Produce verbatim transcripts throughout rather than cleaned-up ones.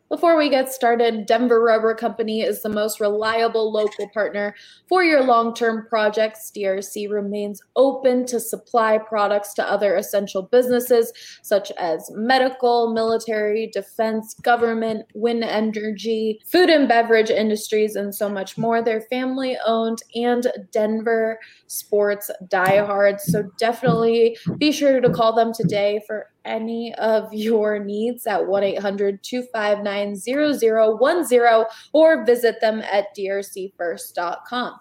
Before we get started, Denver Rubber Company is the most reliable local partner for your long-term projects. D R C remains open to supply products to other essential businesses such as medical, military, defense, government, wind energy, food and beverage industries, and so much more. They're family-owned and Denver sports diehards, so definitely be sure to call them today for any of your needs at one eight hundred two five nine zero zero one zero or visit them at d r c first dot com.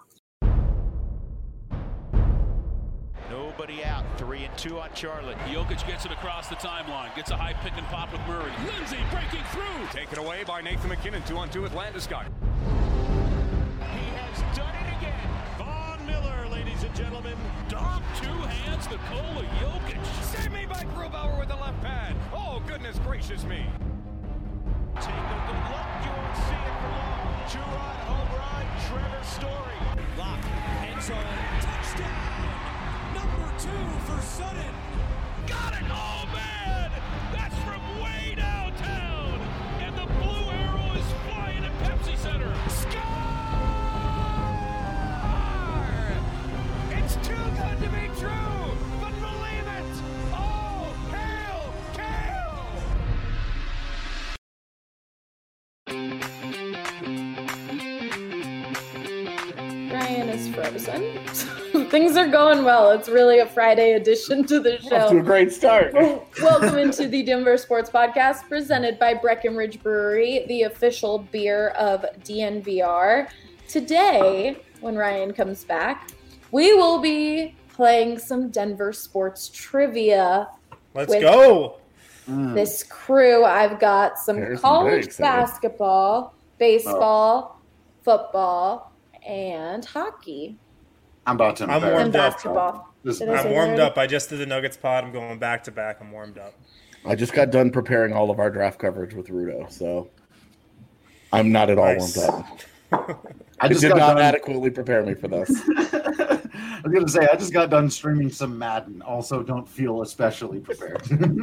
Nobody out. Three and two on Charlotte. Jokic gets it across the timeline. Gets a high pick and pop with Murray. Lindsay breaking through. Taken away by Nathan McKinnon. Two on two with Landeskog. He has done it again. Von Miller, ladies and gentlemen. Dom, two hands, Nikola Jokic. Save me by Grubauer with the left pad. Oh, goodness gracious me. Take a good look. You won't see it for long. Two-run home run. Trevor Story. Lock. End zone. Touchdown. Number two for Sutton. Got it. Oh, man. That's from way downtown. And the blue arrow is flying at Pepsi Center. Score! It's too good to be true, but believe it. Oh, hail, Kale! Ryan is frozen. Things are going well. It's really a Friday edition to the show. Off to a great start. Welcome into the Denver Sports Podcast presented by Breckenridge Brewery, the official beer of D N V R. Today, when Ryan comes back, we will be playing some Denver sports trivia. Let's go. This crew. I've got some There's some college very exciting. basketball, baseball, football, and hockey. I'm about to I'm embarrass warmed And up. basketball. This- Did I say I'm that warmed already? up. I just did the Nuggets pod. I'm going back to back. I'm warmed up. I just got done preparing all of our draft coverage with Rudo, so I'm not at all Nice. warmed up. I It just did got not done. adequately prepare me for this. I was gonna say I just got done streaming some Madden. Also, don't feel especially prepared.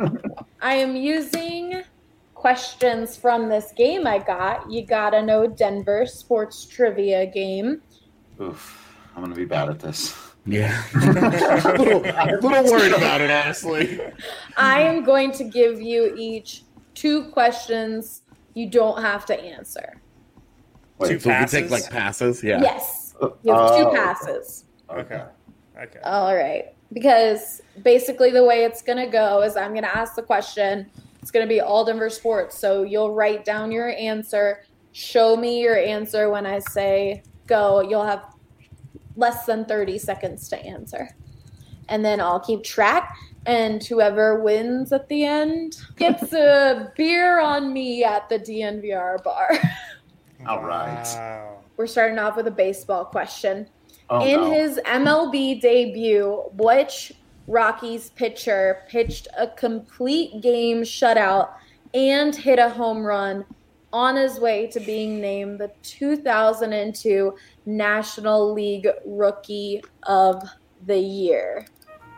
I am using questions from this game I got. You gotta know Denver sports trivia game. Oof, I'm gonna be bad at this. Yeah. a, little, a little worried about it, honestly. I am going to give you each two questions you don't have to answer. Wait, Two So we can take passes? like passes, yeah. Yes. You have Oh. two passes. Okay. Okay. All right. Because basically the way it's going to go is I'm going to ask the question. It's going to be all Denver sports. So you'll write down your answer. Show me your answer when I say go. You'll have less than thirty seconds to answer. And then I'll keep track. And whoever wins at the end gets a beer on me at the D N V R bar. All right. Wow. We're starting off with a baseball question. Oh, In no. his M L B debut, which Rockies pitcher pitched a complete game shutout and hit a home run on his way to being named the two thousand two National League Rookie of the Year?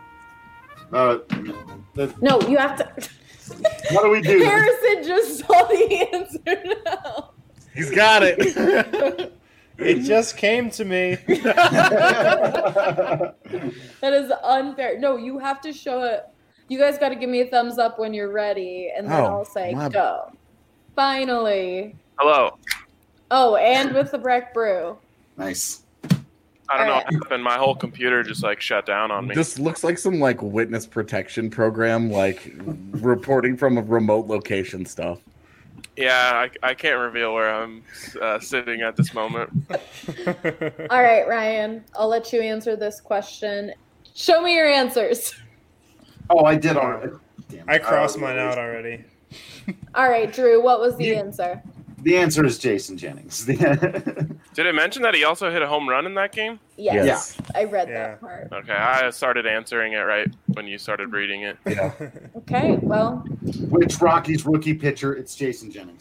Uh, the, No, you have to. what do we do? Harrison just saw the answer now. He's got it. It just came to me. That is unfair. No, you have to show it. You guys got to give me a thumbs up when you're ready, and then Oh, I'll say my- go. Finally. Hello. Oh, and with the Breck Brew. Nice. I don't know Alright. what happened. My whole computer just like shut down on me. This looks like some like witness protection program, like reporting from a remote location stuff. Yeah, I, I can't reveal where I'm uh, sitting at this moment. All right, Ryan, I'll let you answer this question. Show me your answers. Oh, I did already. Damn it. I crossed Uh, mine out already. All right, Drew, what was the You- answer? The answer is Jason Jennings. Did it mention that he also hit a home run in that game? Yes, Yes. I read Yeah. that part. Okay, I started answering it right when you started reading it. Yeah. Okay, well, Which Rockies rookie pitcher? It's Jason Jennings.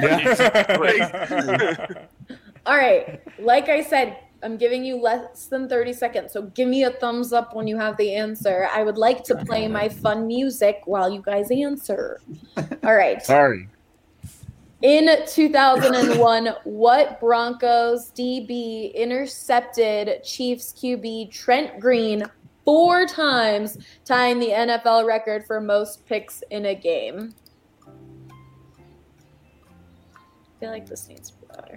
all right. Like I said, I'm giving you less than thirty seconds, so give me a thumbs up when you have the answer. I would like to play my fun music while you guys answer. All right. Sorry. In two thousand one, what Broncos D B intercepted Chiefs Q B Trent Green four times, tying the N F L record for most picks in a game? I feel like this needs to be louder.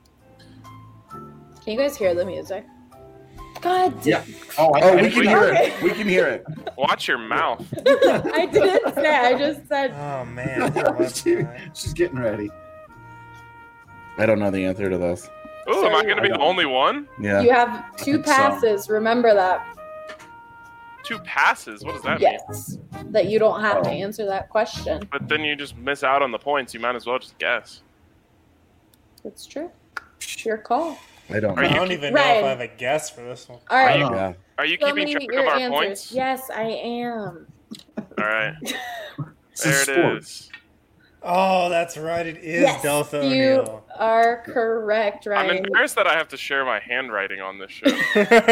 Can you guys hear the music? God Yeah. Oh, I, Oh, I we can we- hear Okay. it. We can hear it. Watch your mouth. I didn't say. I just said. Oh man. I love She- that. she's getting ready. I don't know the answer to this. Ooh, am I going to be I the don't. only one? Yeah. You have two think so. passes. Remember that. Two passes? What does that mean? Yes. That you don't have to Oh. answer that question. But then you just miss out on the points. You might as well just guess. It's true. It's your call. I don't Are know. I you- don't even know Ryan. if I have a guess for this one. All right. know. Yeah. Are you Show keeping me track your of our answers. points? Yes, I am. All right. This There is it sports. is. Oh, that's right. It is Yes, Deltha you O'Neill. are correct, I'm Ryan. embarrassed that I have to share my handwriting on this show.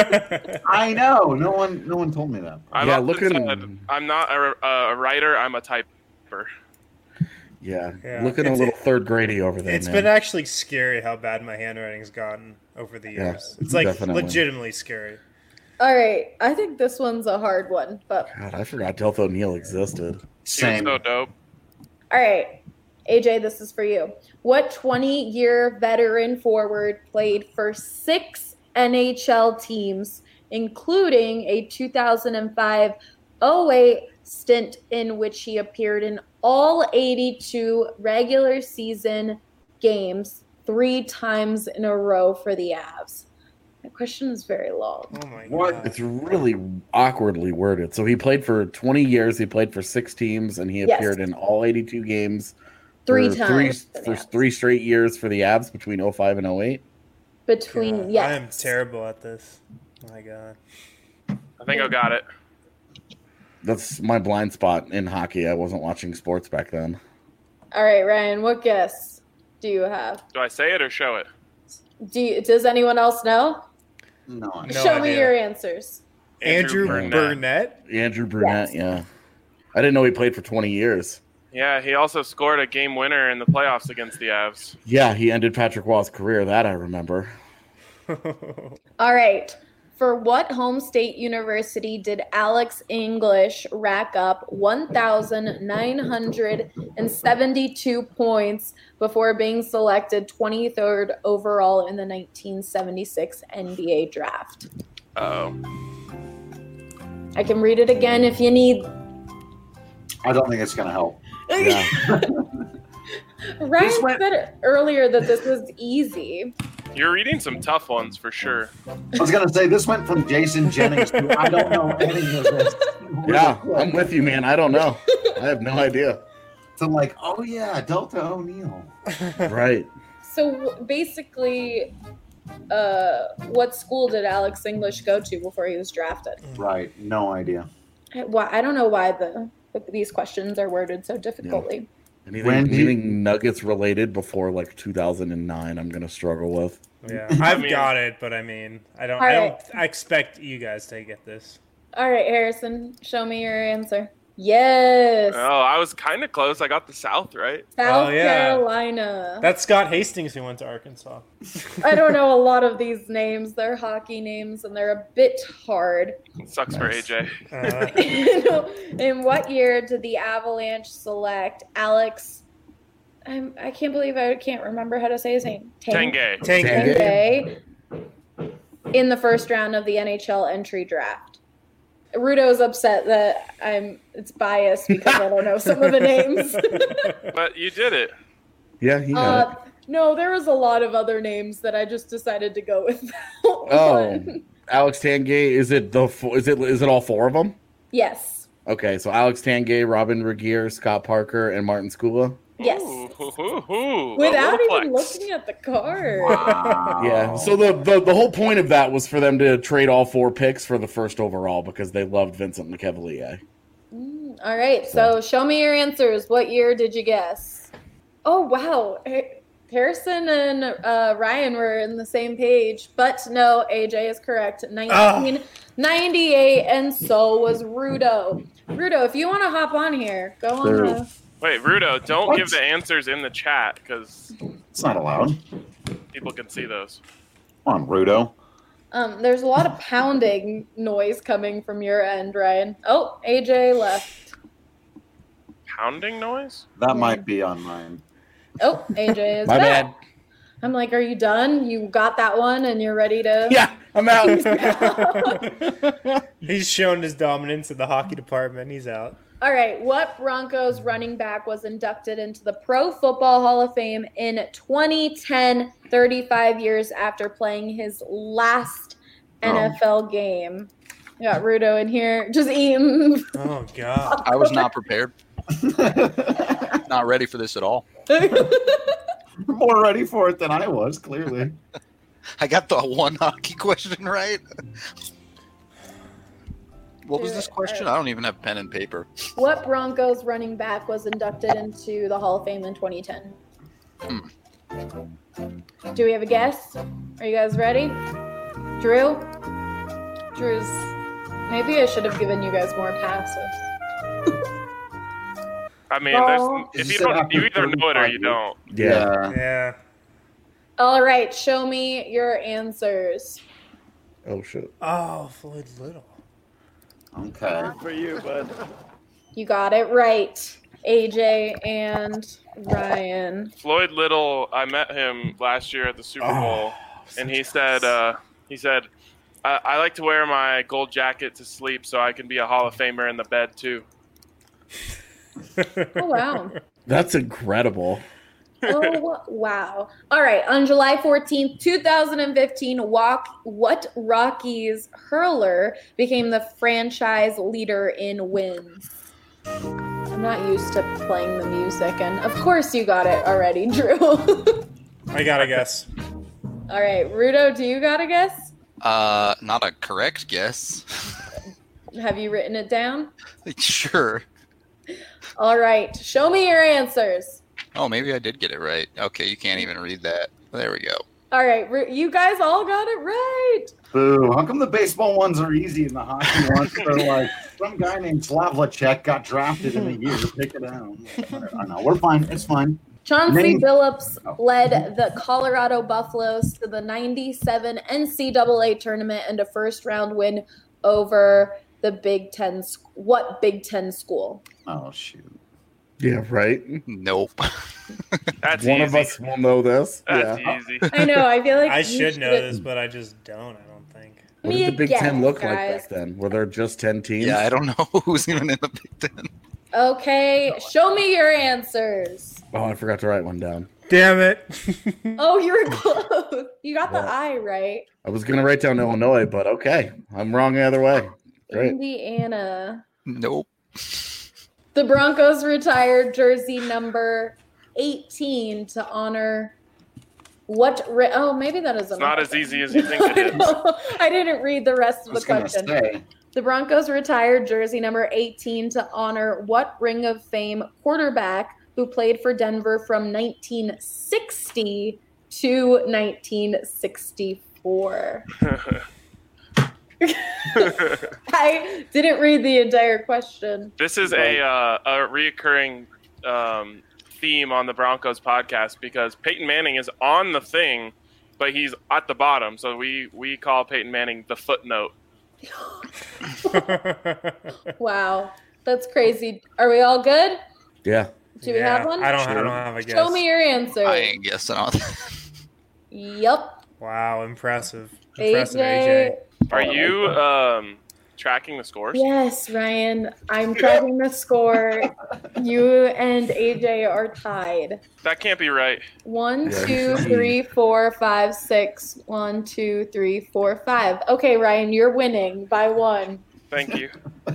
I know. No one, no one told me that. I've Yeah, often looking- said, I'm not a, a writer, I'm a typer. Yeah. Yeah. Looking a It's- little third grady over there, It's man. been actually scary how bad my handwriting's gotten over the Yeah, years. it's like definitely. legitimately scary. All right. I think this one's a hard one, but God, I forgot Deltha O'Neill existed. He was Same. so dope. all right. A J, this is for you. What twenty-year veteran forward played for six N H L teams, including a two thousand five oh eight stint in which he appeared in all eighty-two regular season games three times in a row for the Avs? My question is very long. Oh my What? god. It's really awkwardly worded. So he played for twenty years. He played for six teams, and he Yes. appeared in all eighty-two games. Three for times Three, for the for Avs. three straight years for the Avs between oh five and oh eight. Between, God, yes. I am terrible at this. My god. I think I got it. That's my blind spot in hockey. I wasn't watching sports back then. All right, Ryan, what guess do you have? Do I say it or show it? Do you, does anyone else know? No, I No Show me idea. your answers. Andrew, Burnett. Burnett. Andrew Brunette, Yes. yeah. I didn't know he played for twenty years. Yeah, he also scored a game winner in the playoffs against the Avs. Yeah, he ended Patrick Waugh's career. That I remember. All right. For what home state university did Alex English rack up one thousand nine hundred seventy-two points before being selected twenty-third overall in the nineteen seventy-six N B A draft? Oh. I can read it again if you need. I don't think it's gonna help. Yeah. Ryan This went- said earlier that this was easy. You're reading some tough ones for sure. I was gonna say this went from Jason Jennings to I don't know any of this. Yeah, I'm with you, man. I don't know. I have no idea. So I'm like, oh yeah, Delta O'Neill. Right. So basically, uh, what school did Alex English go to before he was drafted? Right, no idea. I- Why I don't know why the these questions are worded so difficultly. Anything, When do you- anything Nuggets related before like two thousand nine, I'm gonna struggle with. Yeah, I've mean- got it, but I mean, I don't. All I don't. right. I expect you guys to get this. All right, Harrison, show me your answer. Yes, Oh, I was kind of close. I got the South right. South Oh, yeah. Carolina. That's Scott Hastings who went to Arkansas. I don't know a lot of these names. They're hockey names, and they're a bit hard. It sucks for A Nice. J. Uh, In what year did the Avalanche select Alex? I'm, I can't believe I can't remember how to say his name. Tang- Tenge. Tank. Tank. Tenge in the first round of the N H L entry draft. Rudo's upset that I'm it's biased because I don't know some of the names. But you did it. Yeah, he got uh, it. no, there was a lot of other names that I just decided to go with. That Oh, one. Alex Tangay. Is it the? fo- Is it? Is it all four of them? Yes. Okay, so Alex Tangay, Robin Regier, Scott Parker, and Martin Skula. Yes. Ooh, hoo, hoo, hoo. A Without little even flex. looking at the card. Wow. Yeah. So the, the the whole point of that was for them to trade all four picks for the first overall because they loved Vincent Lecavalier. Mm, all right, so show me your answers. What year did you guess? Oh, wow. Ha- Harrison and uh, Ryan were in the same page, but no, A J is correct. nineteen ninety-eight, and so was Rudo. Rudo, if you want to hop on here, go on There- the Wait, Rudo, don't What? give the answers in the chat because It's not allowed. people can see those. Come on, Rudo. Um, there's a lot of pounding noise coming from your end, Ryan. Oh, A J left. Pounding noise? That might be on mine. Oh, A J is My back. bad. I'm like, are you done? You got that one and you're ready to... Yeah, I'm out. He's shown his dominance in the hockey department. He's out. All right, what Broncos running back was inducted into the Pro Football Hall of Fame in twenty ten, thirty-five years after playing his last Oh. N F L game? We got Rudo in here just eating. Oh, God. I was not prepared. Not ready for this at all. More ready for it than I was, clearly. I got the one hockey question right. What was this question? I don't even have pen and paper. What Broncos running back was inducted into the Hall of Fame in twenty ten? Hmm. Do we have a guess? Are you guys ready? Drew? Drew's... Maybe I should have given you guys more passes. I mean, Well- there's, if You you said don't, after you either know it or you thirty-five don't. Yeah. Yeah. All right, show me your answers. Oh shit. Oh, Floyd Little. Okay. For you, bud. You got it right. A J and Ryan. Floyd Little, I met him last year at the Super Oh, Bowl, and he said, uh, he said, I, I like to wear my gold jacket to sleep so I can be a Hall of Famer in the bed too. Oh, wow. That's incredible. Oh, wow. All right. On July fourteenth, twenty fifteen, walk, what Rockies hurler became the franchise leader in wins? I'm not used to playing the music, and of course you got it already, Drew. I got to guess. All right. Rudo, do you got a guess? Uh, not a correct guess. Have you written it down? Sure. All right. Show me your answers. Oh, maybe I did get it right. Okay, you can't even read that. There we go. All right. Ru- You guys all got it right. Boo. How come the baseball ones are easy and the hockey ones are like, some guy named Slavlicek got drafted in a year. Pick it out. I know. We're fine. It's fine. Chauncey Name- Billups Oh. led the Colorado Buffaloes to the ninety-seven N C double A tournament and a first-round win over the Big Ten. sc- What Big Ten school? Oh, shoot. Yeah, right. Nope. That's One easy. of us will know this. That's yeah. easy. I know. I feel like I you should know should've- this, but I just don't. I don't think. What Me did the Big again, Ten look guys. like back then? Were there just ten teams? Yeah, I don't know who's even in the Big Ten. Okay, show me your answers. Oh, I forgot to write one down. Damn it. Oh, you were close. You got the Well. I right. I was gonna write down Illinois, but okay, I'm wrong either way. Great. Indiana. Nope. The Broncos retired jersey number eighteen to honor what? Ri- oh, maybe that is It's not as easy as you think it is. I didn't read the rest I of was the going to question. say, The Broncos retired jersey number eighteen to honor what Ring of Fame quarterback who played for Denver from nineteen sixty to nineteen sixty-four? I didn't read the entire question. This is a uh, a reoccurring um, theme on the Broncos podcast because Peyton Manning is on the thing, but he's at the bottom. So we, we call Peyton Manning the footnote. Wow, that's crazy. Are we all good? Yeah. Do we Yeah, have one? I don't, I don't have a guess. Show me your answer. I ain't guessing on that. Yep. Wow, impressive. Impressive, A J. A J. Are you um, tracking the scores? Yes, Ryan. I'm tracking the score. You and A J are tied. That can't be right. One, Yeah, two, you should. three, four, five, six. One, two, three, four, five. Okay, Ryan, you're winning by one. Thank you.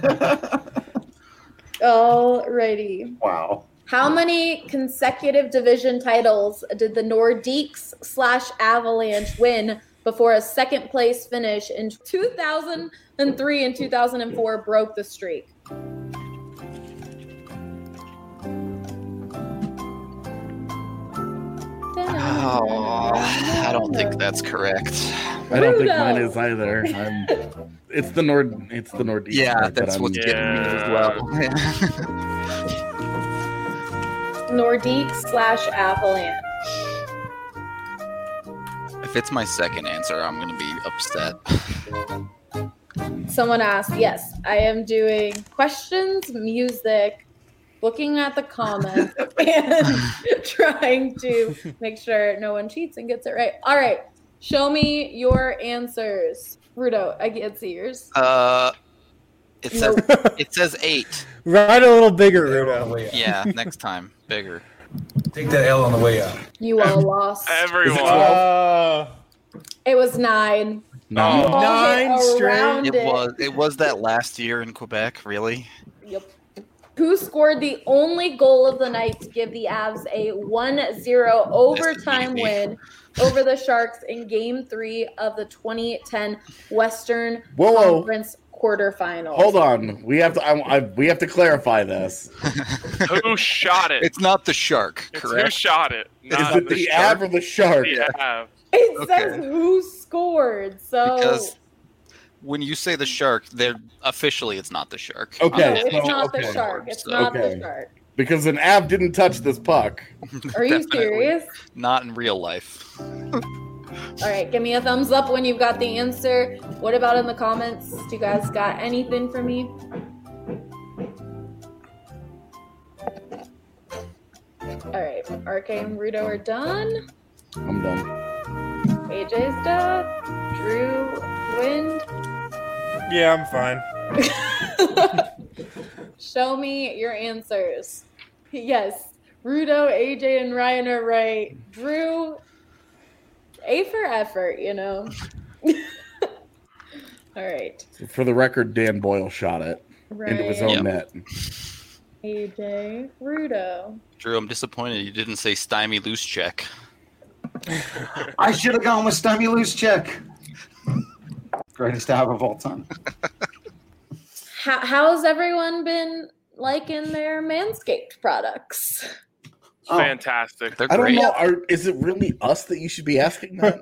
Alrighty. wow. How many consecutive division titles did the Nordiques slash Avalanche win before a second place finish in two thousand three and two thousand four broke the streak? Oh, I don't think that's correct. I don't think Rudo. mine is either. I'm, it's the Nord. It's the Northeast. Yeah, part that that's I'm- what's getting me as Yeah. well. Nordique slash Avalanche. If it's my second answer, I'm going to be upset. Someone asked, yes, I am doing questions, music, looking at the comments, and trying to make sure no one cheats and gets it right. All right, show me your answers. Rudo, I can't see yours. Uh, it says Nope. it says eight. Write a little bigger, Rudo. Yeah, next time, bigger. Take that L on the way out. You all lost. Everyone. Uh, It was nine. No. You all hit Nine straight? around It was it was that last year in Quebec, really? Yep. Who scored the only goal of the night to give the Avs a one zero overtime easy. win over the Sharks in Game three of the twenty ten Western Whoa, whoa. Conference quarterfinals? Hold on. We have to. I, I, we have to clarify this. Who shot it? It's not the Shark, It's who correct? shot it? Is Not it the Av or the Shark? The Av. It Okay. says who scored. So Because when you say the Shark, they're officially it's not the Shark. Okay. no, I'm it's so- not okay. the Shark. It's So- not Okay. the Shark. Because an Av didn't touch this puck. Are you Definitely. serious? Not in real life. All right, give me a thumbs up when you've got the answer. What about in the comments? Do you guys got anything for me? All right, R K and Rudo are done. I'm done. A J's done. Drew, Wind. yeah, I'm fine. Show me your answers. Yes, Rudo, A J, and Ryan are right. Drew, A for effort, you know. All right. For the record, Dan Boyle shot it into his own Ryan, net. A J, Rudo. Drew, I'm disappointed you didn't say stymie loose check. I should have gone with Stummy Loose Check. Greatest Av of all time. How, how's everyone been liking their Manscaped products? Oh. Fantastic. They're I don't great. know. Are, is it really us that you should be asking that?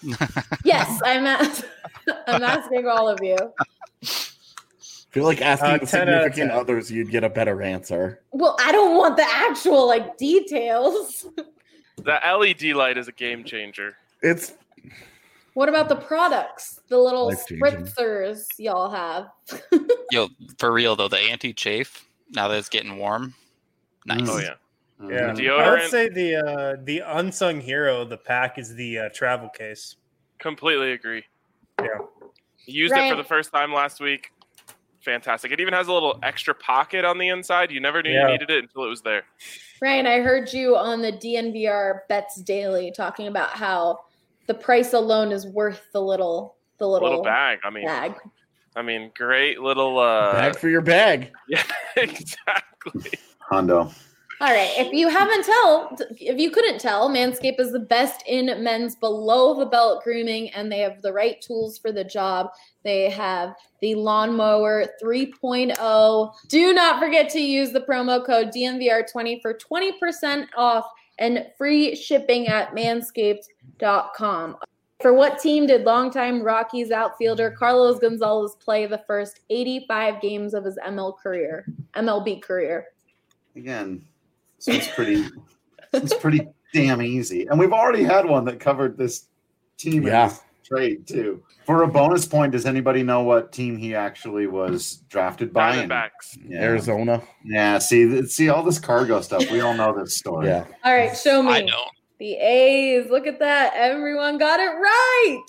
Yes, I'm ask- I'm asking all of you. I feel like asking Uh, the ten out of significant ten. others, you'd get a better answer. Well, I don't want the actual like details. The L E D light is a game changer. It's What about the products? The little Life-changing. spritzers y'all have. Yo, for real though, the anti-chafe, now that it's getting warm, nice. Oh yeah. Yeah, Mhm. Deodorant. I would say the uh, the unsung hero of the pack is the uh, travel case. Completely agree. Yeah. Used it Ryan- for the first time last week. Fantastic. It even has a little extra pocket on the inside. You never knew Yeah. you needed it until it was there. Ryan, I heard you on the D N V R Bets Daily talking about how the price alone is worth the little the little, Little bag. I mean, bag. I mean, great little. Uh, bag for your bag. Yeah, exactly. Hondo. All right. If you haven't tell, if you couldn't tell, Manscaped is the best in men's below the belt grooming, and they have the right tools for the job. They have the Lawnmower three point oh. Do not forget to use the promo code D N V R twenty for twenty percent off and free shipping at manscaped dot com. For what team did longtime Rockies outfielder Carlos Gonzalez play the first eighty-five games of his M L career, M L B career? Again, so it's pretty it's pretty damn easy. And we've already had one that covered this team Yeah. in this trade too. For a bonus point, does anybody know what team he actually was drafted by? And- Diamondbacks. Yeah. Arizona. Yeah, see th- see all this cargo stuff. We all know this story. Yeah. All right, show me. I know. The A's. Look at that. Everyone got it right.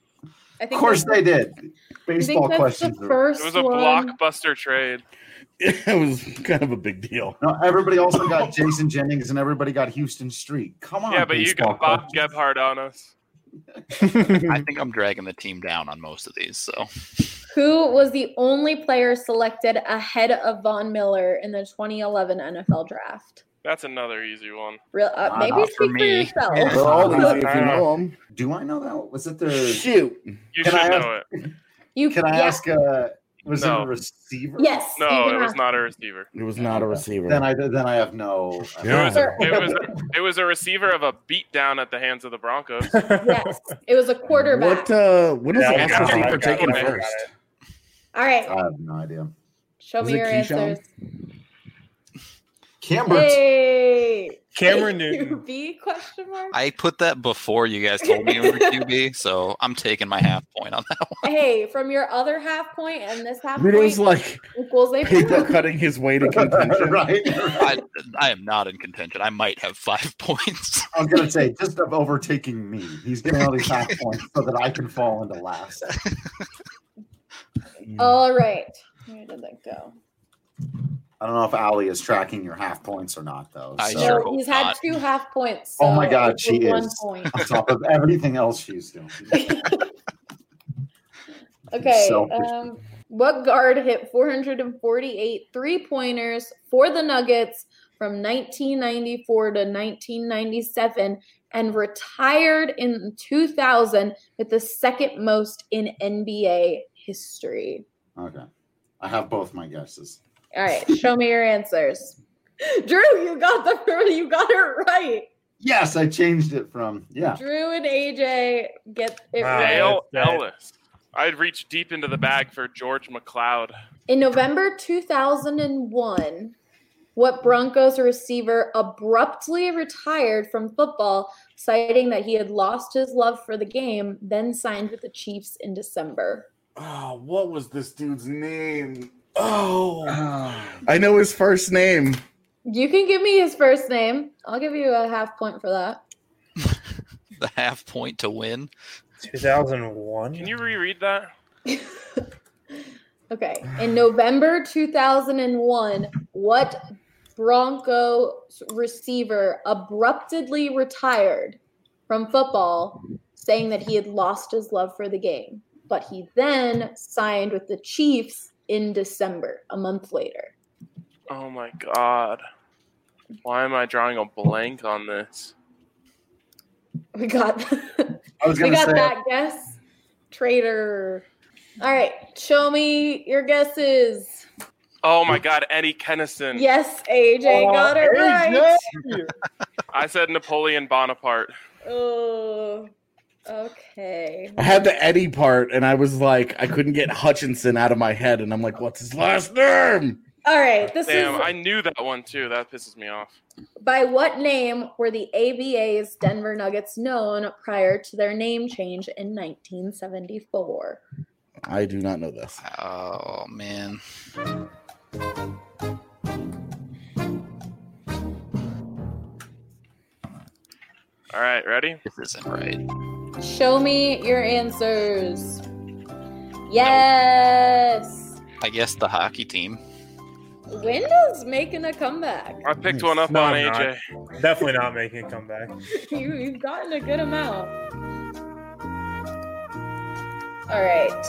I Of think course that's- they did. I think Baseball that's questions. the are- first It was a one. blockbuster trade. It was kind of a big deal. No, everybody also got Jason Jennings and everybody got Houston Street. Come on. Yeah, but you baseball got Bob questions. Gebhardt on us. I think I'm dragging the team down on most of these. So Who was the only player selected ahead of Von Miller in the twenty eleven N F L draft? That's another easy one. Real, uh, Not maybe for speak for, me. yourself. Yeah. They're all easy if you know them. Do I know that? Was it the? Shoot. You Can should I know it. You Can I yeah. ask? Uh, was No. it a receiver? Yes. you No, can it was ask. not a receiver. It was not a receiver. Then I then I have no. Yeah. It was, it was it was a receiver of a beatdown at the hands of the Broncos. Yes, it was a quarterback. What? Uh, when was Yeah, the I got last it, I receiver got it, taken I got first? it. All right, I have no idea. show Was me it your Keyshawn? answers. Camber. Hey. Cameron Q Newton. B question mark? I put that before you guys told me you were Q B, so I'm taking my half point on that one. Hey, from your other half point and this half Rudo's point like equals a paper point. cutting his way to contention. right. I, I am not in contention. I might have five points. I was gonna say just of overtaking me. He's getting all these half points so that I can fall into last. All right. Where did that go? I don't know if Allie is tracking your half points or not, though. I so- sure No, hope he's had not. two half points. Oh my so God, it she was one is. point. On top of everything else she's doing. Okay. Selfish. Um, what guard hit four hundred forty-eight three-pointers for the Nuggets from nineteen ninety-four to nineteen ninety-seven and retired in two thousand with the second most in N B A history? Okay. I have both my guesses. All right, show me your answers. Drew, you got the you got it right. Yes, I changed it from, yeah. Drew and A J get it Wow. right. Dale that's right. Ellis. I'd reach deep into the bag for George McLeod. In November two thousand one, what Broncos receiver abruptly retired from football, citing that he had lost his love for the game, then signed with the Chiefs in December? Oh, what was this dude's name? Oh, I know his first name. You can give me his first name. I'll give you a half point for that. The half point to win. two thousand one. Can you reread that? Okay. In November two thousand one, what Broncos receiver abruptly retired from football, saying that he had lost his love for the game, but he then signed with the Chiefs in December, a month later? Oh my god. Why am I drawing a blank on this? We got I was we gonna got say that guess. Traitor. All right. Show me your guesses. Oh my god, Eddie Kennison. Yes, A J Oh, got it right. I said Napoleon Bonaparte. Oh, okay. I had the Eddie part, and I was like, I couldn't get Hutchinson out of my head, and I'm like, what's his last name? All right. This Damn, is I knew that one too. That pisses me off. by what name were the A B A's Denver Nuggets known prior to their name change in nineteen seventy-four? I do not know this. Oh, man. All right, ready? This isn't right. Show me your answers. Yes. I guess the hockey team. Windows making a comeback. I picked one up No, on I'm A not. J. Definitely not making a comeback. you, you've gotten a good amount. All right.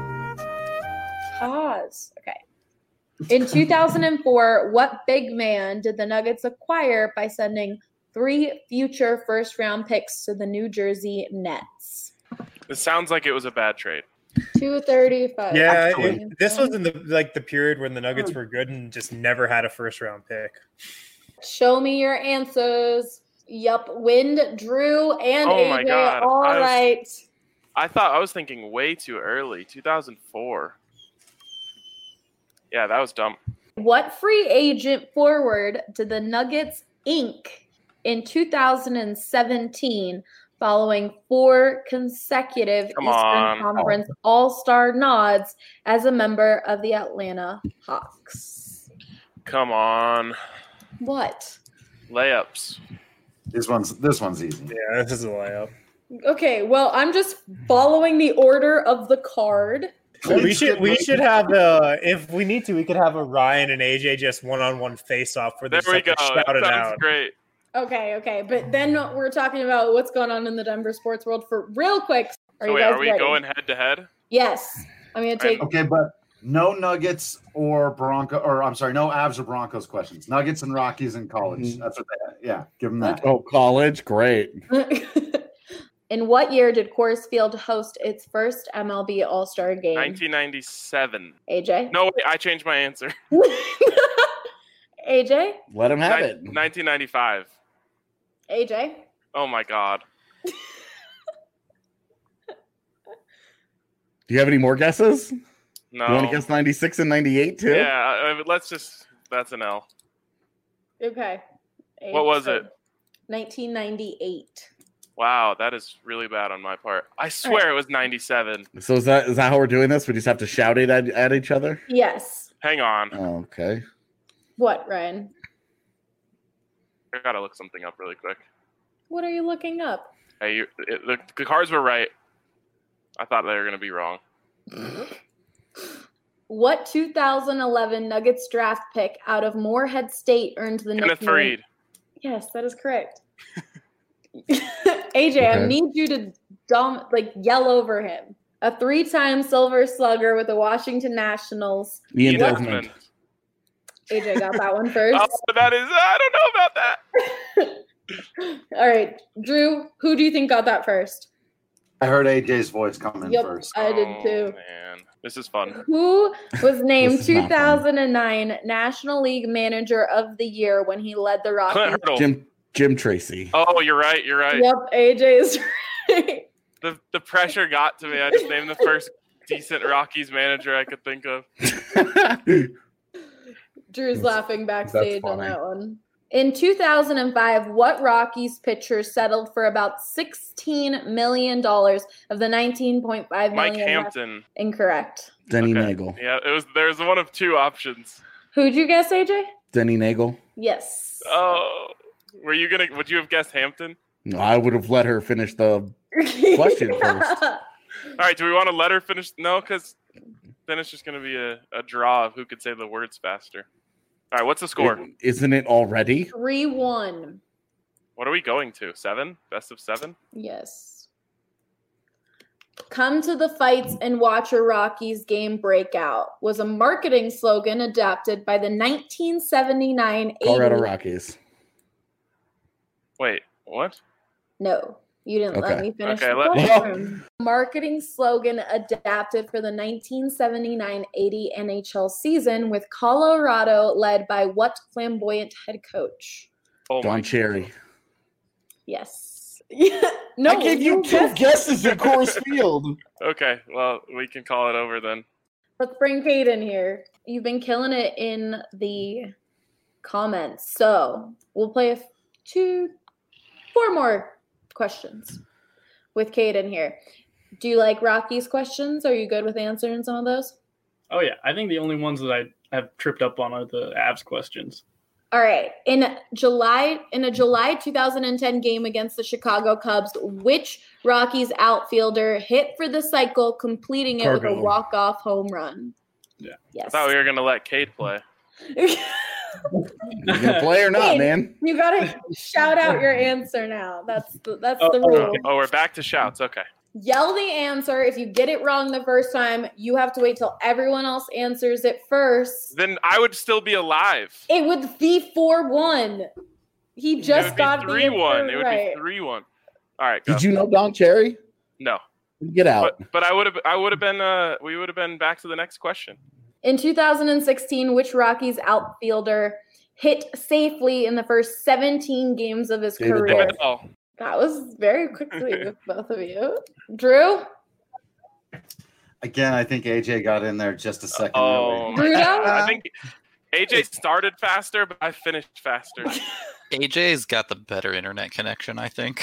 Pause. Okay. In two thousand four, what big man did the Nuggets acquire by sending three future first-round picks to the New Jersey Nets? It sounds like it was a bad trade. two thirty-five. Yeah, Actually- it- this was in the like the period when the Nuggets were good and just never had a first round pick. Show me your answers. Yup, Wind, Drew, and Oh my A J. God, All I was- right. I thought I was thinking way too early. two thousand four. Yeah, that was dumb. What free agent forward did the Nuggets ink in two thousand seventeen following four consecutive Come Eastern on. Conference All-Star nods as a member of the Atlanta Hawks? Come on. What? Layups. this one's this one's easy. Yeah, this is a layup. Okay, well, I'm just following the order of the card. We should we should have uh if we need to we could have a Ryan and A J just one on one face off where There they we go. shout That it sounds out. great. Okay, okay, but then we're talking about what's going on in the Denver sports world for real quick. Are So you wait, guys are we ready? going head to head? Yes. I'm going to take Okay, but no Nuggets or Bronco, or I'm sorry, no Avs or Broncos questions. Nuggets and Rockies in college. That's what they Yeah, give them that. Oh, college? Great. In what year did Coors Field host its first M L B All-Star game? nineteen ninety-seven. A J? No, wait, I changed my answer. A J? Let him have Nin- it. nineteen ninety-five. A J? Oh my god. Do you have any more guesses? No. You want to guess ninety-six and ninety-eight too? Yeah, uh, let's just. That's an L. Okay. What was it? nineteen ninety-eight. Wow, that is really bad on my part. I swear right. it was ninety-seven. So is that is that how we're doing this? We just have to shout it at, at each other? Yes. Hang on. Oh, okay. What, Ryan? I gotta look something up really quick. What are you looking up? Hey, you, it, the, the cards were right. I thought they were gonna be wrong. What two thousand eleven Nuggets draft pick out of Morehead State earned the Kenneth nickname? Faried. Yes, that is correct. A J, Okay. I need you to dom- like yell over him. A three-time Silver Slugger with the Washington Nationals. Ian Ian Desmond. Desmond. A J got that one first. Oh, that is. I don't know about that. All right, Drew, who do you think got that first? I heard A J's voice come in Yep, first. I did Oh, too. man, this is fun. Who was named This is not two thousand nine National League Manager of the Year when he led the Rockies? Clint Hurdle. Jim Jim Tracy. Oh, you're right. You're right. Yep, A J is right. The the pressure got to me. I just named the first decent Rockies manager I could think of. Drew's laughing backstage on funny. that one. In two thousand five, what Rockies pitcher settled for about sixteen million dollars of the nineteen point five million Mike dollars? Hampton. Incorrect. Denny Okay. Nagel. Yeah, it was. There's one of two options. Who'd you guess, A J? Denny Nagel. Yes. Oh, were you gonna? Would you have guessed Hampton? No, I would have let her finish the question first. All right. Do we want to let her finish? No, because then it's just gonna be a, a draw of who could say the words faster. All right. What's the score? Isn't it already? three one. What are we going to? Seven? Best of seven? Yes. Come to the fights and watch a Rockies game breakout was a marketing slogan adapted by the nineteen seventy-nine Colorado eighty Rockies. Wait. What? No, you didn't let Okay. me finish Okay, the let- question. Marketing slogan adapted for the nineteen seventy-nine eighty N H L season with Colorado led by what flamboyant head coach? Oh my. Don Cherry. Yes. no, I gave you two guessed- guesses at Coors Field. Okay. Well, we can call it over then. Let's bring Kate in here. You've been killing it in the comments. So we'll play a f- two, four more questions with Kate in here. Do you like Rocky's questions? Are you good with answering some of those? Oh, yeah. I think the only ones that I have tripped up on are the Avs questions. All right. In July, in a July two thousand ten game against the Chicago Cubs, which Rockies outfielder hit for the cycle, completing it with Cargo. a walk-off home run? Yeah. Yes. I thought we were gonna let Cade play. You gonna play or not, Hey, man? You gotta shout out your answer now. That's the, that's Oh, the rule. okay. Oh, we're back to shouts. Okay. Yell the answer. If you get it wrong the first time, you have to wait till everyone else answers it first. Then I would still be alive. It would be four one. He It just would got be the three one. answer It would right. be three one. All right. Go. Did you know Don Cherry? No. Get out. But but I would have I would have been uh we would have been back to the next question. In two thousand sixteen, which Rockies outfielder hit safely in the first seventeen games of his David career? Oh, That was very quickly with both of you. Drew? Again, I think A J got in there just a second oh early. my Bruno? God. I think A J started faster, but I finished faster. A J's got the better internet connection, I think.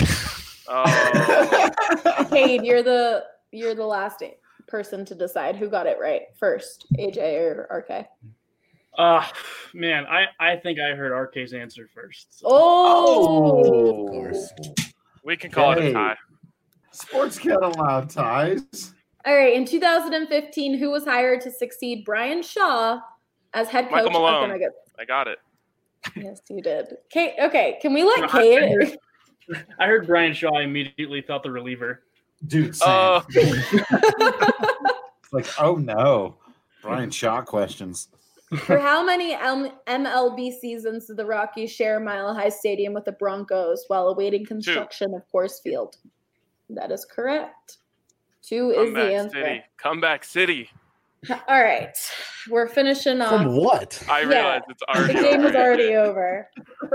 Oh, Cade, you're the you're the last person to decide who got it right first, A J or R K. Uh, man, I, I think I heard R K's answer first. So. Oh, Of course. we can call it Hey. a tie. Sports can't allow ties. All right. In two thousand fifteen, who was hired to succeed Brian Shaw as head coach Michael of the Malone. Nuggets? I got it. Yes, you did. Kate, okay, can we let I Kate? heard, I heard Brian Shaw. I immediately thought the reliever. Dude, same. Oh, It's like, oh no. Brian Shaw questions. For how many M- MLB seasons did the Rockies share Mile High Stadium with the Broncos while awaiting construction of Coors Field? That is correct. Two is the comeback answer. city. Comeback city. All right, we're finishing off. From what? I Yeah. realize it's The already game is over. already over.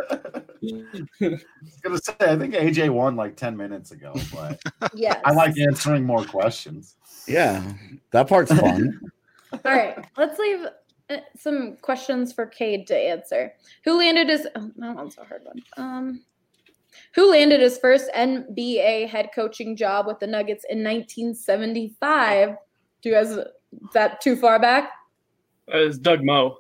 I was gonna say, I think A J won like ten minutes ago, but Yes. I like answering more questions. Yeah, that part's fun. All right, let's leave uh, some questions for Cade to answer. Who landed his? Oh, that one's a hard one. Um, who landed his first N B A head coaching job with the Nuggets in nineteen seventy-five? Do you guys? Is that too far back? Uh, it's Doug Moe.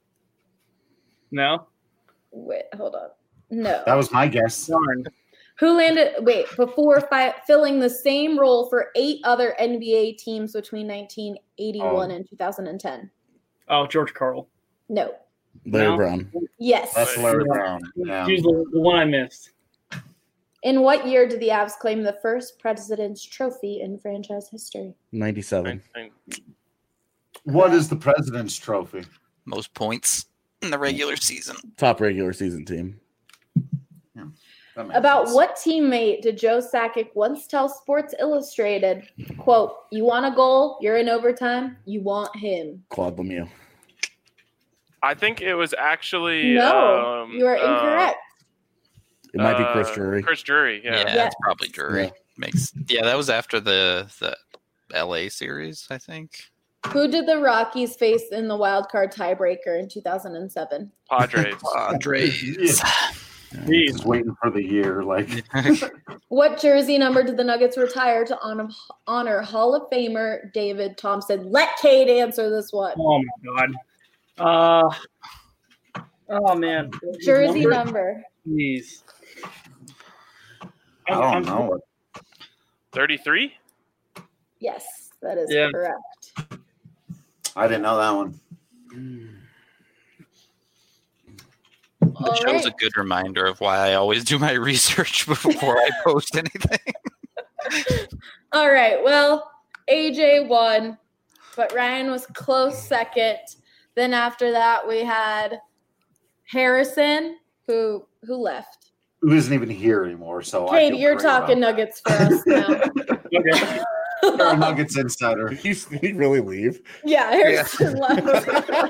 No. Wait, hold on. No. That was my guess. Darn. Who landed? Wait, before fi- filling the same role for eight other N B A teams between nineteen eighty-one Oh. and two thousand ten. Oh, George Karl. No. Larry No. Brown. Yes. That's Larry Brown. Yeah. He's the, the one I missed. In what year did the Avs claim the first President's Trophy in franchise history? ninety-seven. What is the President's Trophy? Most points in the regular season. Top regular season team. That makes About sense. what teammate did Joe Sakic once tell Sports Illustrated, quote, you want a goal, you're in overtime, you want him? Claude Lemieux. I think it was actually No, um, you are uh, incorrect. It might be Chris uh, Drury. Chris Drury, Yeah, yeah. Yeah. it's probably Drury. Yeah. Makes yeah, that was after the the L A series, I think. Who did the Rockies face in the wild card tiebreaker in two thousand seven? Padres. Padres. Yeah. Jeez. Just waiting for the year. Like, What jersey number did the Nuggets retire to honor, honor Hall of Famer David Thompson? Let Cade answer this one. Oh my god. Uh. Oh man. Jersey Number? number. Jeez. I don't know. thirty-three? Yes, that is Yeah. correct. I didn't know that one. All It shows right. a good reminder of why I always do my research before I post anything. All right. Well, A J won, but Ryan was close second. Then after that, we had Harrison, who who left. Who isn't even here anymore? So I Cade, feel you're great talking about Nuggets for us now. Okay. it. You're a Nuggets insider. Did he, did he really leave? Yeah, Harrison left.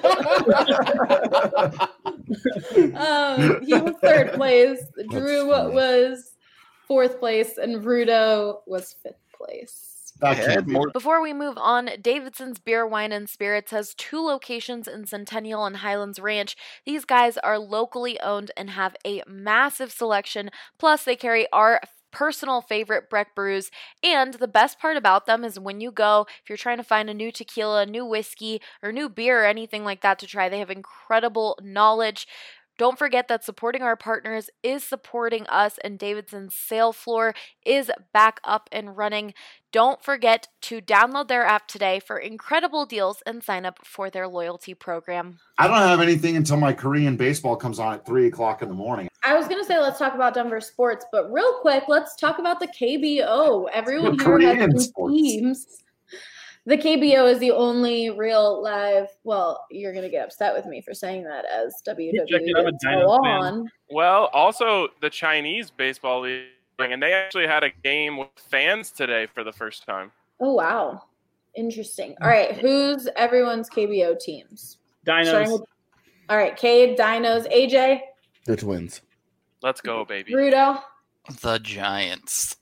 um, he was third place. Drew funny. was fourth place, and Rudo was fifth place. That can't be more- right. Before we move on, Davidson's Beer, Wine, and Spirits has two locations in Centennial and Highlands Ranch. These guys are locally owned and have a massive selection. Plus, they carry our personal favorite Breck brews. And the best part about them is when you go, if you're trying to find a new tequila, new whiskey, or new beer or anything like that to try, they have incredible knowledge. Don't forget that supporting our partners is supporting us, and Davidson's sale floor is back up and running. Don't forget to download their app today for incredible deals and sign up for their loyalty program. I don't have anything until my Korean baseball comes on at three o'clock in the morning. I was going to say let's talk about Denver sports, but real quick, let's talk about the K B O. Everyone The here Korean has some sports. teams. The K B O is the only real live. Well, you're going to get upset with me for saying that as W W E checking, I'm a did Dino go fan. on. Well, also the Chinese baseball league, and they actually had a game with fans today for the first time. Oh, wow. Interesting. All right. Who's everyone's K B O teams? Starting Dinos. with- all right. Cade, Dinos, A J, The Twins. Let's go, baby. Rudo, The Giants.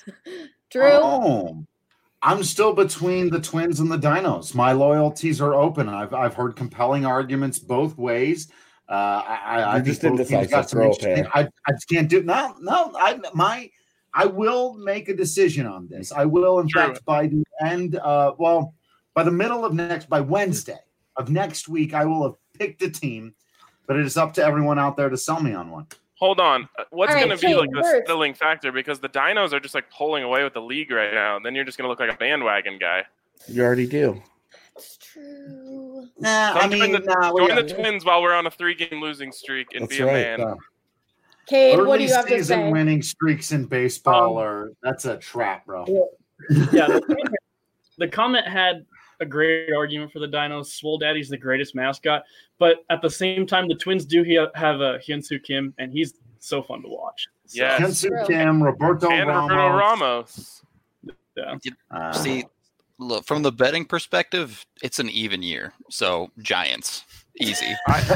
Drew. Oh, I'm still between the Twins and the Dinos. My loyalties are open. I've I've heard compelling arguments both ways. Uh, I, I, I You're think just both teams indecisive. got some Throw a interesting- pair. I, I just can't do no no. I my I will make a decision on this. I will, in True. fact, by the end. Uh, well, by the middle of next, by Wednesday of next week, I will have picked a team. But it is up to everyone out there to sell me on one. Hold on. Uh, What's All right, going to be Cade, like the first. settling factor? Because the Dinos are just like pulling away with the league right now. Then you're just going to look like a bandwagon guy. You already do. It's true. Nah, Don't I mean, join the, nah, we join the got- Twins while we're on a three-game losing streak and That's be a right, man. uh, Cade, what do early you have to season say? winning streaks in baseball Um, are that's a trap, bro. Yeah. The comment, the comment had a great argument for the Dinos. Swole Daddy's the greatest mascot, but at the same time, the Twins do he- have a Hyunsoo Kim, and he's so fun to watch. So, Yes. Kensu True. Kim, Roberto And Ramos. Roberto Ramos. yeah. Uh, See, look, from the betting perspective, it's an even year. So Giants, easy.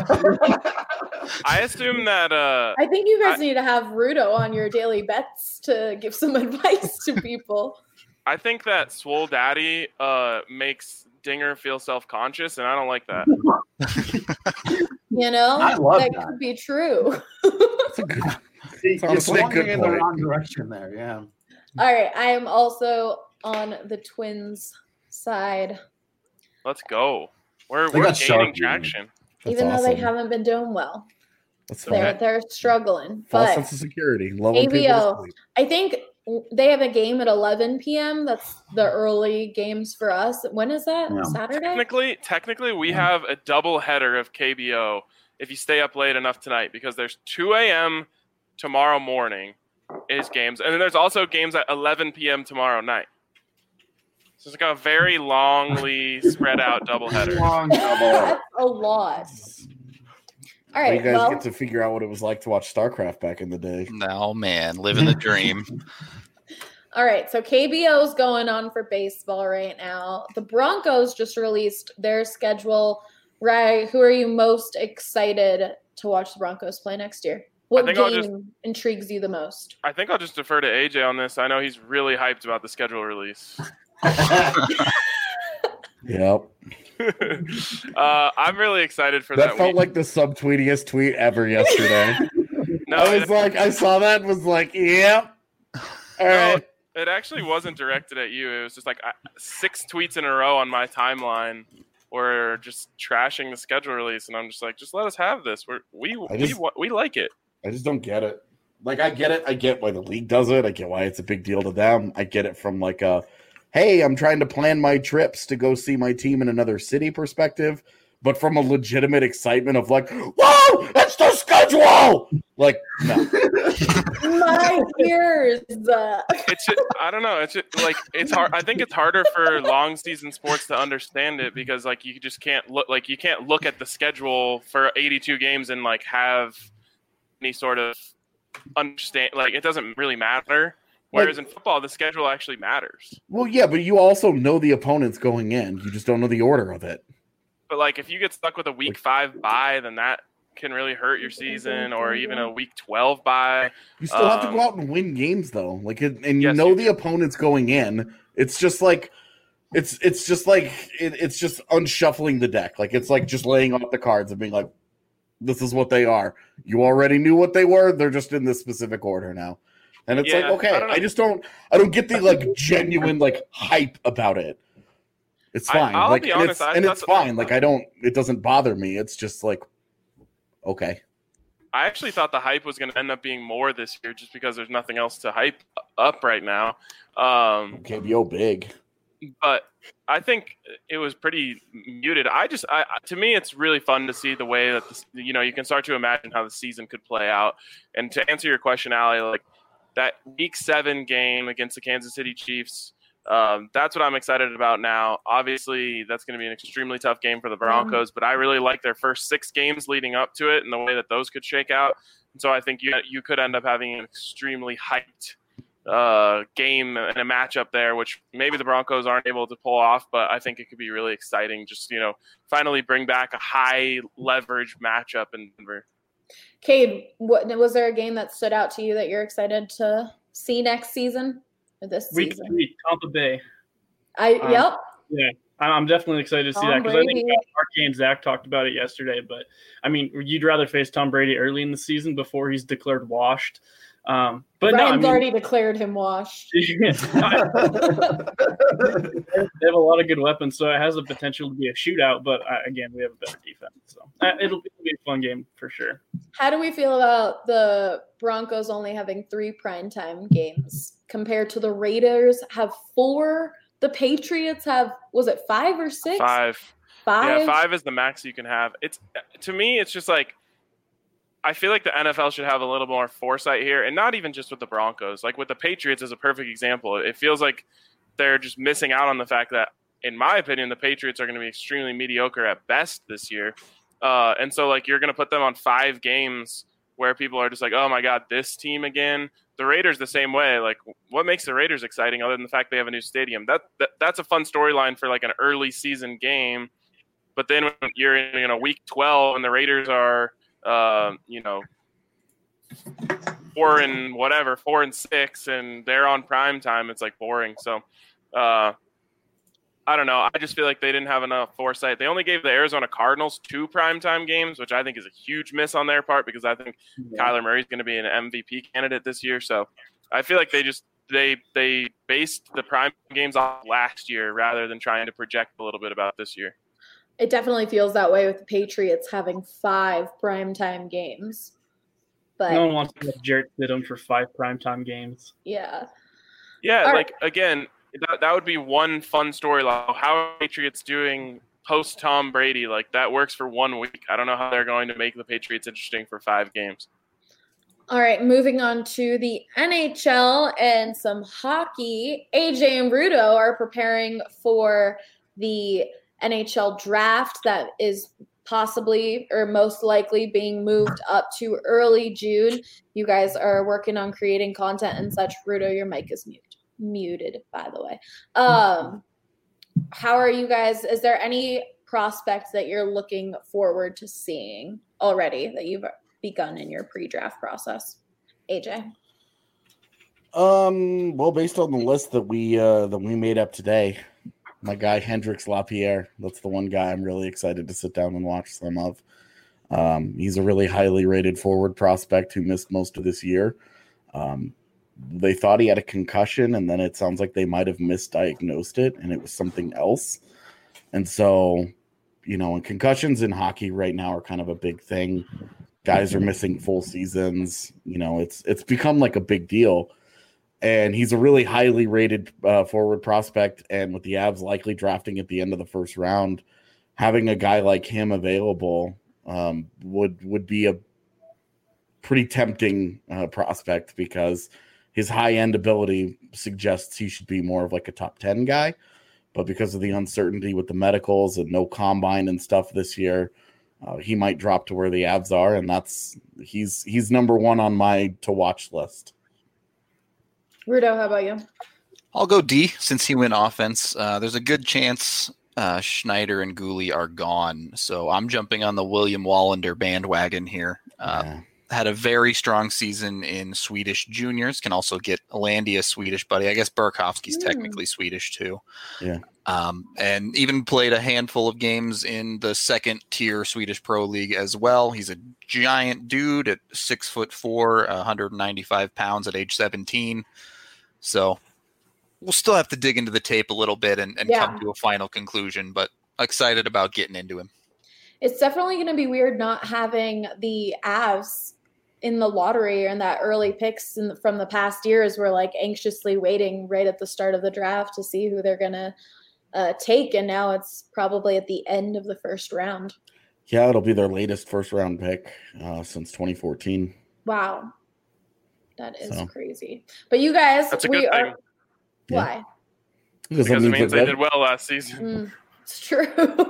I assume that uh, I think you guys I- need to have Rudo on your daily bets to give some advice to people. I think that Swole Daddy uh, makes Dinger feel self-conscious, and I don't like that. You know, I love that, that. could be true. That's a good. You're honestly a swinging good in the point. wrong direction there. Yeah. All right, I am also on the Twins side, Let's go. We're They we're got gaining sharp, traction. That's even though they awesome. haven't been doing well. That's They're fine. they're struggling. False But sense of security. Loving people to A B O, sleep. I think they have a game at eleven p.m. That's the early games for us. When is that? Yeah. Saturday? Technically, technically, we have a double header of K B O if you stay up late enough tonight, because there's two a.m. tomorrow morning is games, and then there's also games at eleven p.m. tomorrow night. So it's like a very longly spread out double header. Long double. That's a lot. All Well, right, you guys well, get to figure out what it was like to watch StarCraft back in the day. No, man. Living the dream. all right. So K B O's going on for baseball right now. The Broncos just released their schedule. Ray, who are you most excited to watch the Broncos play next year? What think game I'll just- intrigues you the most? I think I'll just defer to A J on this. I know he's really hyped about the schedule release. Yep. uh, I'm really excited for That that. felt week. like the subtweetiest tweet ever yesterday. no, I was it, like, I saw that and was like, yep. All no, right. it actually wasn't directed at you. It was just like uh, six tweets in a row on my timeline were just trashing the schedule release, and I'm just like, just let us have this. We're, we I just- we wa- we like it. I just don't get it. Like, I get it. I get why the league does it. I get why it's a big deal to them. I get it from like a, hey, I'm trying to plan my trips to go see my team in another city perspective. But from a legitimate excitement of like, whoa, it's the schedule. Like, no. My ears. Uh, It's just, I don't know. It's just, like it's hard. I think it's harder for long season sports to understand it because like you just can't look like you can't look at the schedule for eighty-two games and like have any sort of understand. Like it doesn't really matter. Whereas in football, the schedule actually matters. Well, yeah, but you also know the opponents going in. You just don't know the order of it. But like if you get stuck with a week five bye, then that can really hurt your season, or even a week twelve bye. You still have to Um, go out and win games, though. Like, it, and you Yes, know you the do. opponents going in. It's just like, it's it's just like it, it's just unshuffling the deck. Like it's like just laying out the cards and being like, "This is what they are." You already knew what they were. They're just in this specific order now, and it's Yeah, like, okay, I don't know. I just don't, I don't get the like genuine like hype about it. It's I- fine, I'll like, be and honest, it's, I- and it's that's- fine. Like I don't, it doesn't bother me. It's just like, okay. I actually thought the hype was going to end up being more this year, just because there's nothing else to hype up right now. Um, K B O big. but I think it was pretty muted. I just, I, to me, it's really fun to see the way that this, you know you can start to imagine how the season could play out. And to answer your question, Allie, like that Week Seven game against the Kansas City Chiefs, um, that's what I'm excited about now. Obviously, that's going to be an extremely tough game for the Broncos, but I really like their first six games leading up to it and the way that those could shake out. And so I think you you could end up having an extremely hyped uh, game and a matchup there, which maybe the Broncos aren't able to pull off, but I think it could be really exciting. Just, you know, finally bring back a high leverage matchup in Denver. Cade, what was there a game that stood out to you that you're excited to see next season or this Week season? three, Tampa Bay. I Um, yep. Yeah, I- I'm definitely excited to see Tom that because I think Brady. Mark and Zach talked about it yesterday. But I mean, you'd rather face Tom Brady early in the season before he's declared washed. Um, but no, I Ryan's mean, already declared him washed. they have a lot of good weapons, so it has the potential to be a shootout. But uh, again, we have a better defense, so uh, it'll, it'll be a fun game for sure. How do we feel about the Broncos only having three primetime games compared to the Raiders have four? The Patriots have, was it five or six? Five. Five? Yeah, five is the max you can have. It's to me, it's just like I feel like the N F L should have a little more foresight here, and not even just with the Broncos. Like with the Patriots is a perfect example. It feels like they're just missing out on the fact that, in my opinion, the Patriots are going to be extremely mediocre at best this year. Uh, and so, like, you're going to put them on five games where people are just like, oh, my God, this team again. The Raiders the same way. Like, what makes the Raiders exciting other than the fact they have a new stadium? That, that That's a fun storyline for, like, an early season game. But then when you're in, you know, week twelve and the Raiders are, uh, you know, four and whatever, four and six, and they're on prime time, it's, like, boring. So, uh, I don't know. I just feel like they didn't have enough foresight. They only gave the Arizona Cardinals two primetime games, which I think is a huge miss on their part because I think yeah. Kyler Murray's going to be an M V P candidate this year. So I feel like they just they they based the prime games off last year rather than trying to project a little bit about this year. It definitely feels that way with the Patriots having five primetime games. But no one wants to have Jarrett Stidham for five primetime games. Yeah. Yeah, All like, right. again, that, that would be one fun story. Like, how are Patriots doing post Tom Brady? Like, that works for one week. I don't know how they're going to make the Patriots interesting for five games. All right, moving on to the N H L and some hockey. A J and Rudo are preparing for the N H L draft that is possibly or most likely being moved up to early June. You guys are working on creating content and such. Rudo, your mic is mute, muted, by the way. Um, how are you guys? Is there any prospects that you're looking forward to seeing already that you've begun in your pre-draft process? A J? Um, well, based on the list that we uh, that we made up today, my guy Hendrix Lapierre, that's the one guy I'm really excited to sit down and watch some of. Um, he's a really highly rated forward prospect who missed most of this year. Um, they thought he had a concussion, and then it sounds like they might have misdiagnosed it, and it was something else. And so, you know, and concussions in hockey right now are kind of a big thing. Guys are missing full seasons. You know, it's it's become like a big deal. And he's a really highly rated uh, forward prospect. And with the Avs likely drafting at the end of the first round, having a guy like him available um, would would be a pretty tempting uh, prospect because his high-end ability suggests he should be more of like a top ten guy. But because of the uncertainty with the medicals and no combine and stuff this year, uh, he might drop to where the Avs are. And that's he's he's number one on my to-watch list. Rudo, how about you? I'll go D since he went offense. Uh, there's a good chance uh, Schneider and Gooley are gone. So I'm jumping on the William Wallander bandwagon here. Uh, yeah. Had a very strong season in Swedish juniors. Can also get Landia Swedish, buddy. I guess Burakovsky's mm. technically Swedish too. Yeah. Um, and even played a handful of games in the second tier Swedish Pro League as well. He's a giant dude at six foot four, one hundred ninety-five pounds at age seventeen. So we'll still have to dig into the tape a little bit and, and yeah. come to a final conclusion, but excited about getting into him. It's definitely going to be weird not having the Avs in the lottery and that early picks in the, from the past years. We're like anxiously waiting right at the start of the draft to see who they're going to uh, take. And now it's probably at the end of the first round. Yeah, it'll be their latest first round pick uh, since twenty fourteen. Wow. That is so crazy. But you guys, That's a we good are. thing. Why? Because, because it means they did well last season. Mm, it's true.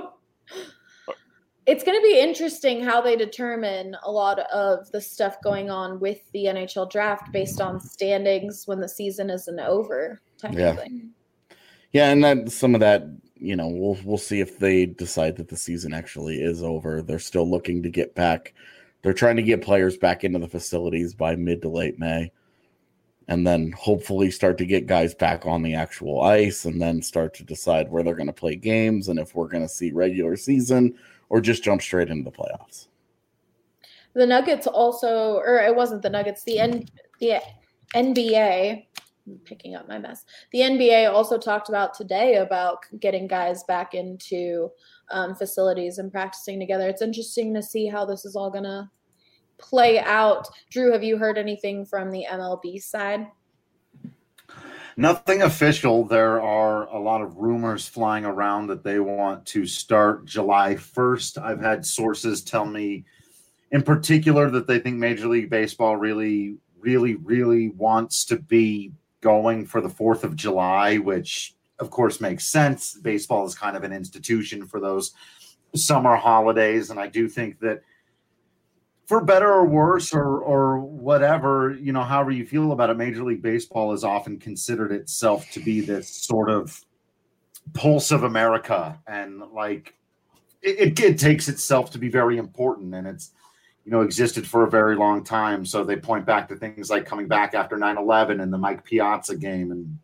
It's going to be interesting how they determine a lot of the stuff going on with the N H L draft based on standings when the season isn't over. Type yeah. of thing. Yeah, and then some of that, you know, we'll we'll see if they decide that the season actually is over. They're still looking to get back. They're trying to get players back into the facilities by mid to late May, and then hopefully start to get guys back on the actual ice, and then start to decide where they're going to play games and if we're going to see regular season or just jump straight into the playoffs. The Nuggets also, or it wasn't the Nuggets, the N, the N B A, I'm picking up my mess. The N B A also talked about today about getting guys back into um, facilities and practicing together. It's interesting to see how this is all going to play out. Drew, have you heard anything from the M L B side? Nothing official. There are a lot of rumors flying around that they want to start July first. I've had sources tell me in particular that they think Major League Baseball really, really, really wants to be going for the fourth of July, which of course makes sense. Baseball is kind of an institution for those summer holidays. And I do think that for better or worse or or whatever, you know, however you feel about it, Major League Baseball has often considered itself to be this sort of pulse of America. And like it, it takes itself to be very important, and it's, you know, existed for a very long time. So they point back to things like coming back after nine eleven and the Mike Piazza game and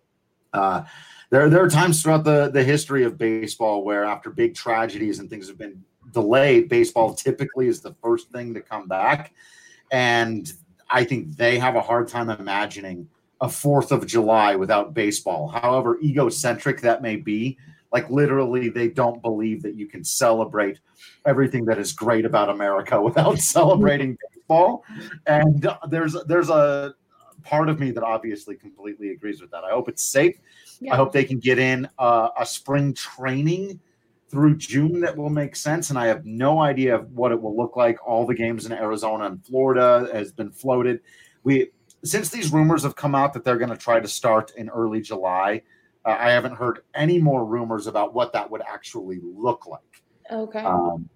Uh, there, there are times throughout the, the history of baseball where after big tragedies and things have been delayed, baseball typically is the first thing to come back. And I think they have a hard time imagining a fourth of July without baseball. However egocentric that may be, like literally they don't believe that you can celebrate everything that is great about America without celebrating baseball. And there's there's a part of me that obviously completely agrees with that. I hope it's safe. Yeah. I hope they can get in uh, a spring training through June that will make sense. And I have no idea what it will look like. All the games in Arizona and Florida has been floated. We Since these rumors have come out that they're going to try to start in early July, uh, I haven't heard any more rumors about what that would actually look like. Okay. Um,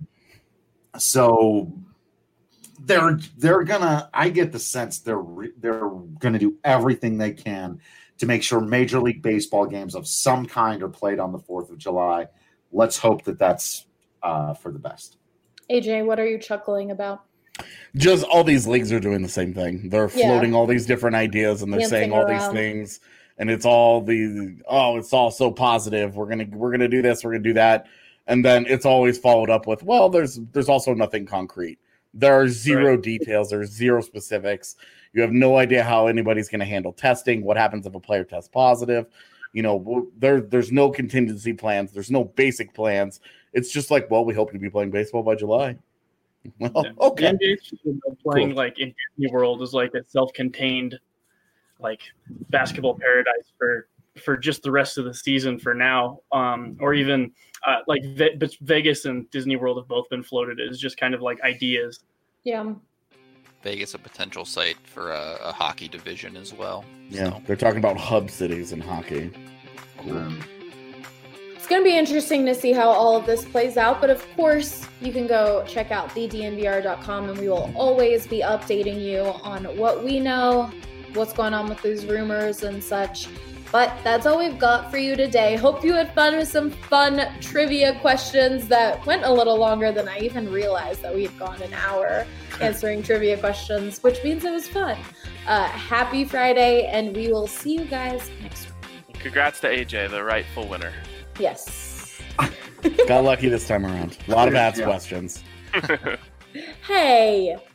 so they're they're gonna. I get the sense they're re- they're gonna do everything they can to make sure Major League Baseball games of some kind are played on the fourth of July. Let's hope that that's uh, for the best. A J, what are you chuckling about? Just all these leagues are doing the same thing. They're floating yeah. all these different ideas and they're Dancing saying all around. these things, and it's all the oh, it's all so positive. We're gonna we're gonna do this, we're gonna do that, and then it's always followed up with, well, there's there's also nothing concrete. There are zero right. details. There's zero specifics. You have no idea how anybody's going to handle testing. What happens if a player tests positive? You know, there there's no contingency plans. There's no basic plans. It's just like, well, we hope to be playing baseball by July. Well, yeah. okay. The N B A playing cool. like in Disney World is like a self-contained, like basketball paradise for for just the rest of the season for now. Um, or even uh, like Ve- Vegas and Disney World have both been floated as just kind of like ideas. Yeah. Vegas a potential site for a, a hockey division as well. Yeah, so. They're talking about hub cities in hockey. Cool. Um, It's going to be interesting to see how all of this plays out, but of course, you can go check out the D N V R dot com, and we will always be updating you on what we know, what's going on with these rumors and such. But that's all we've got for you today. Hope you had fun with some fun trivia questions that went a little longer than I even realized that we had gone an hour answering trivia questions, which means it was fun. Uh, happy Friday, and we will see you guys next week. Congrats to A J, the rightful winner. Yes. Got lucky this time around. A lot of ads yeah. questions. Hey.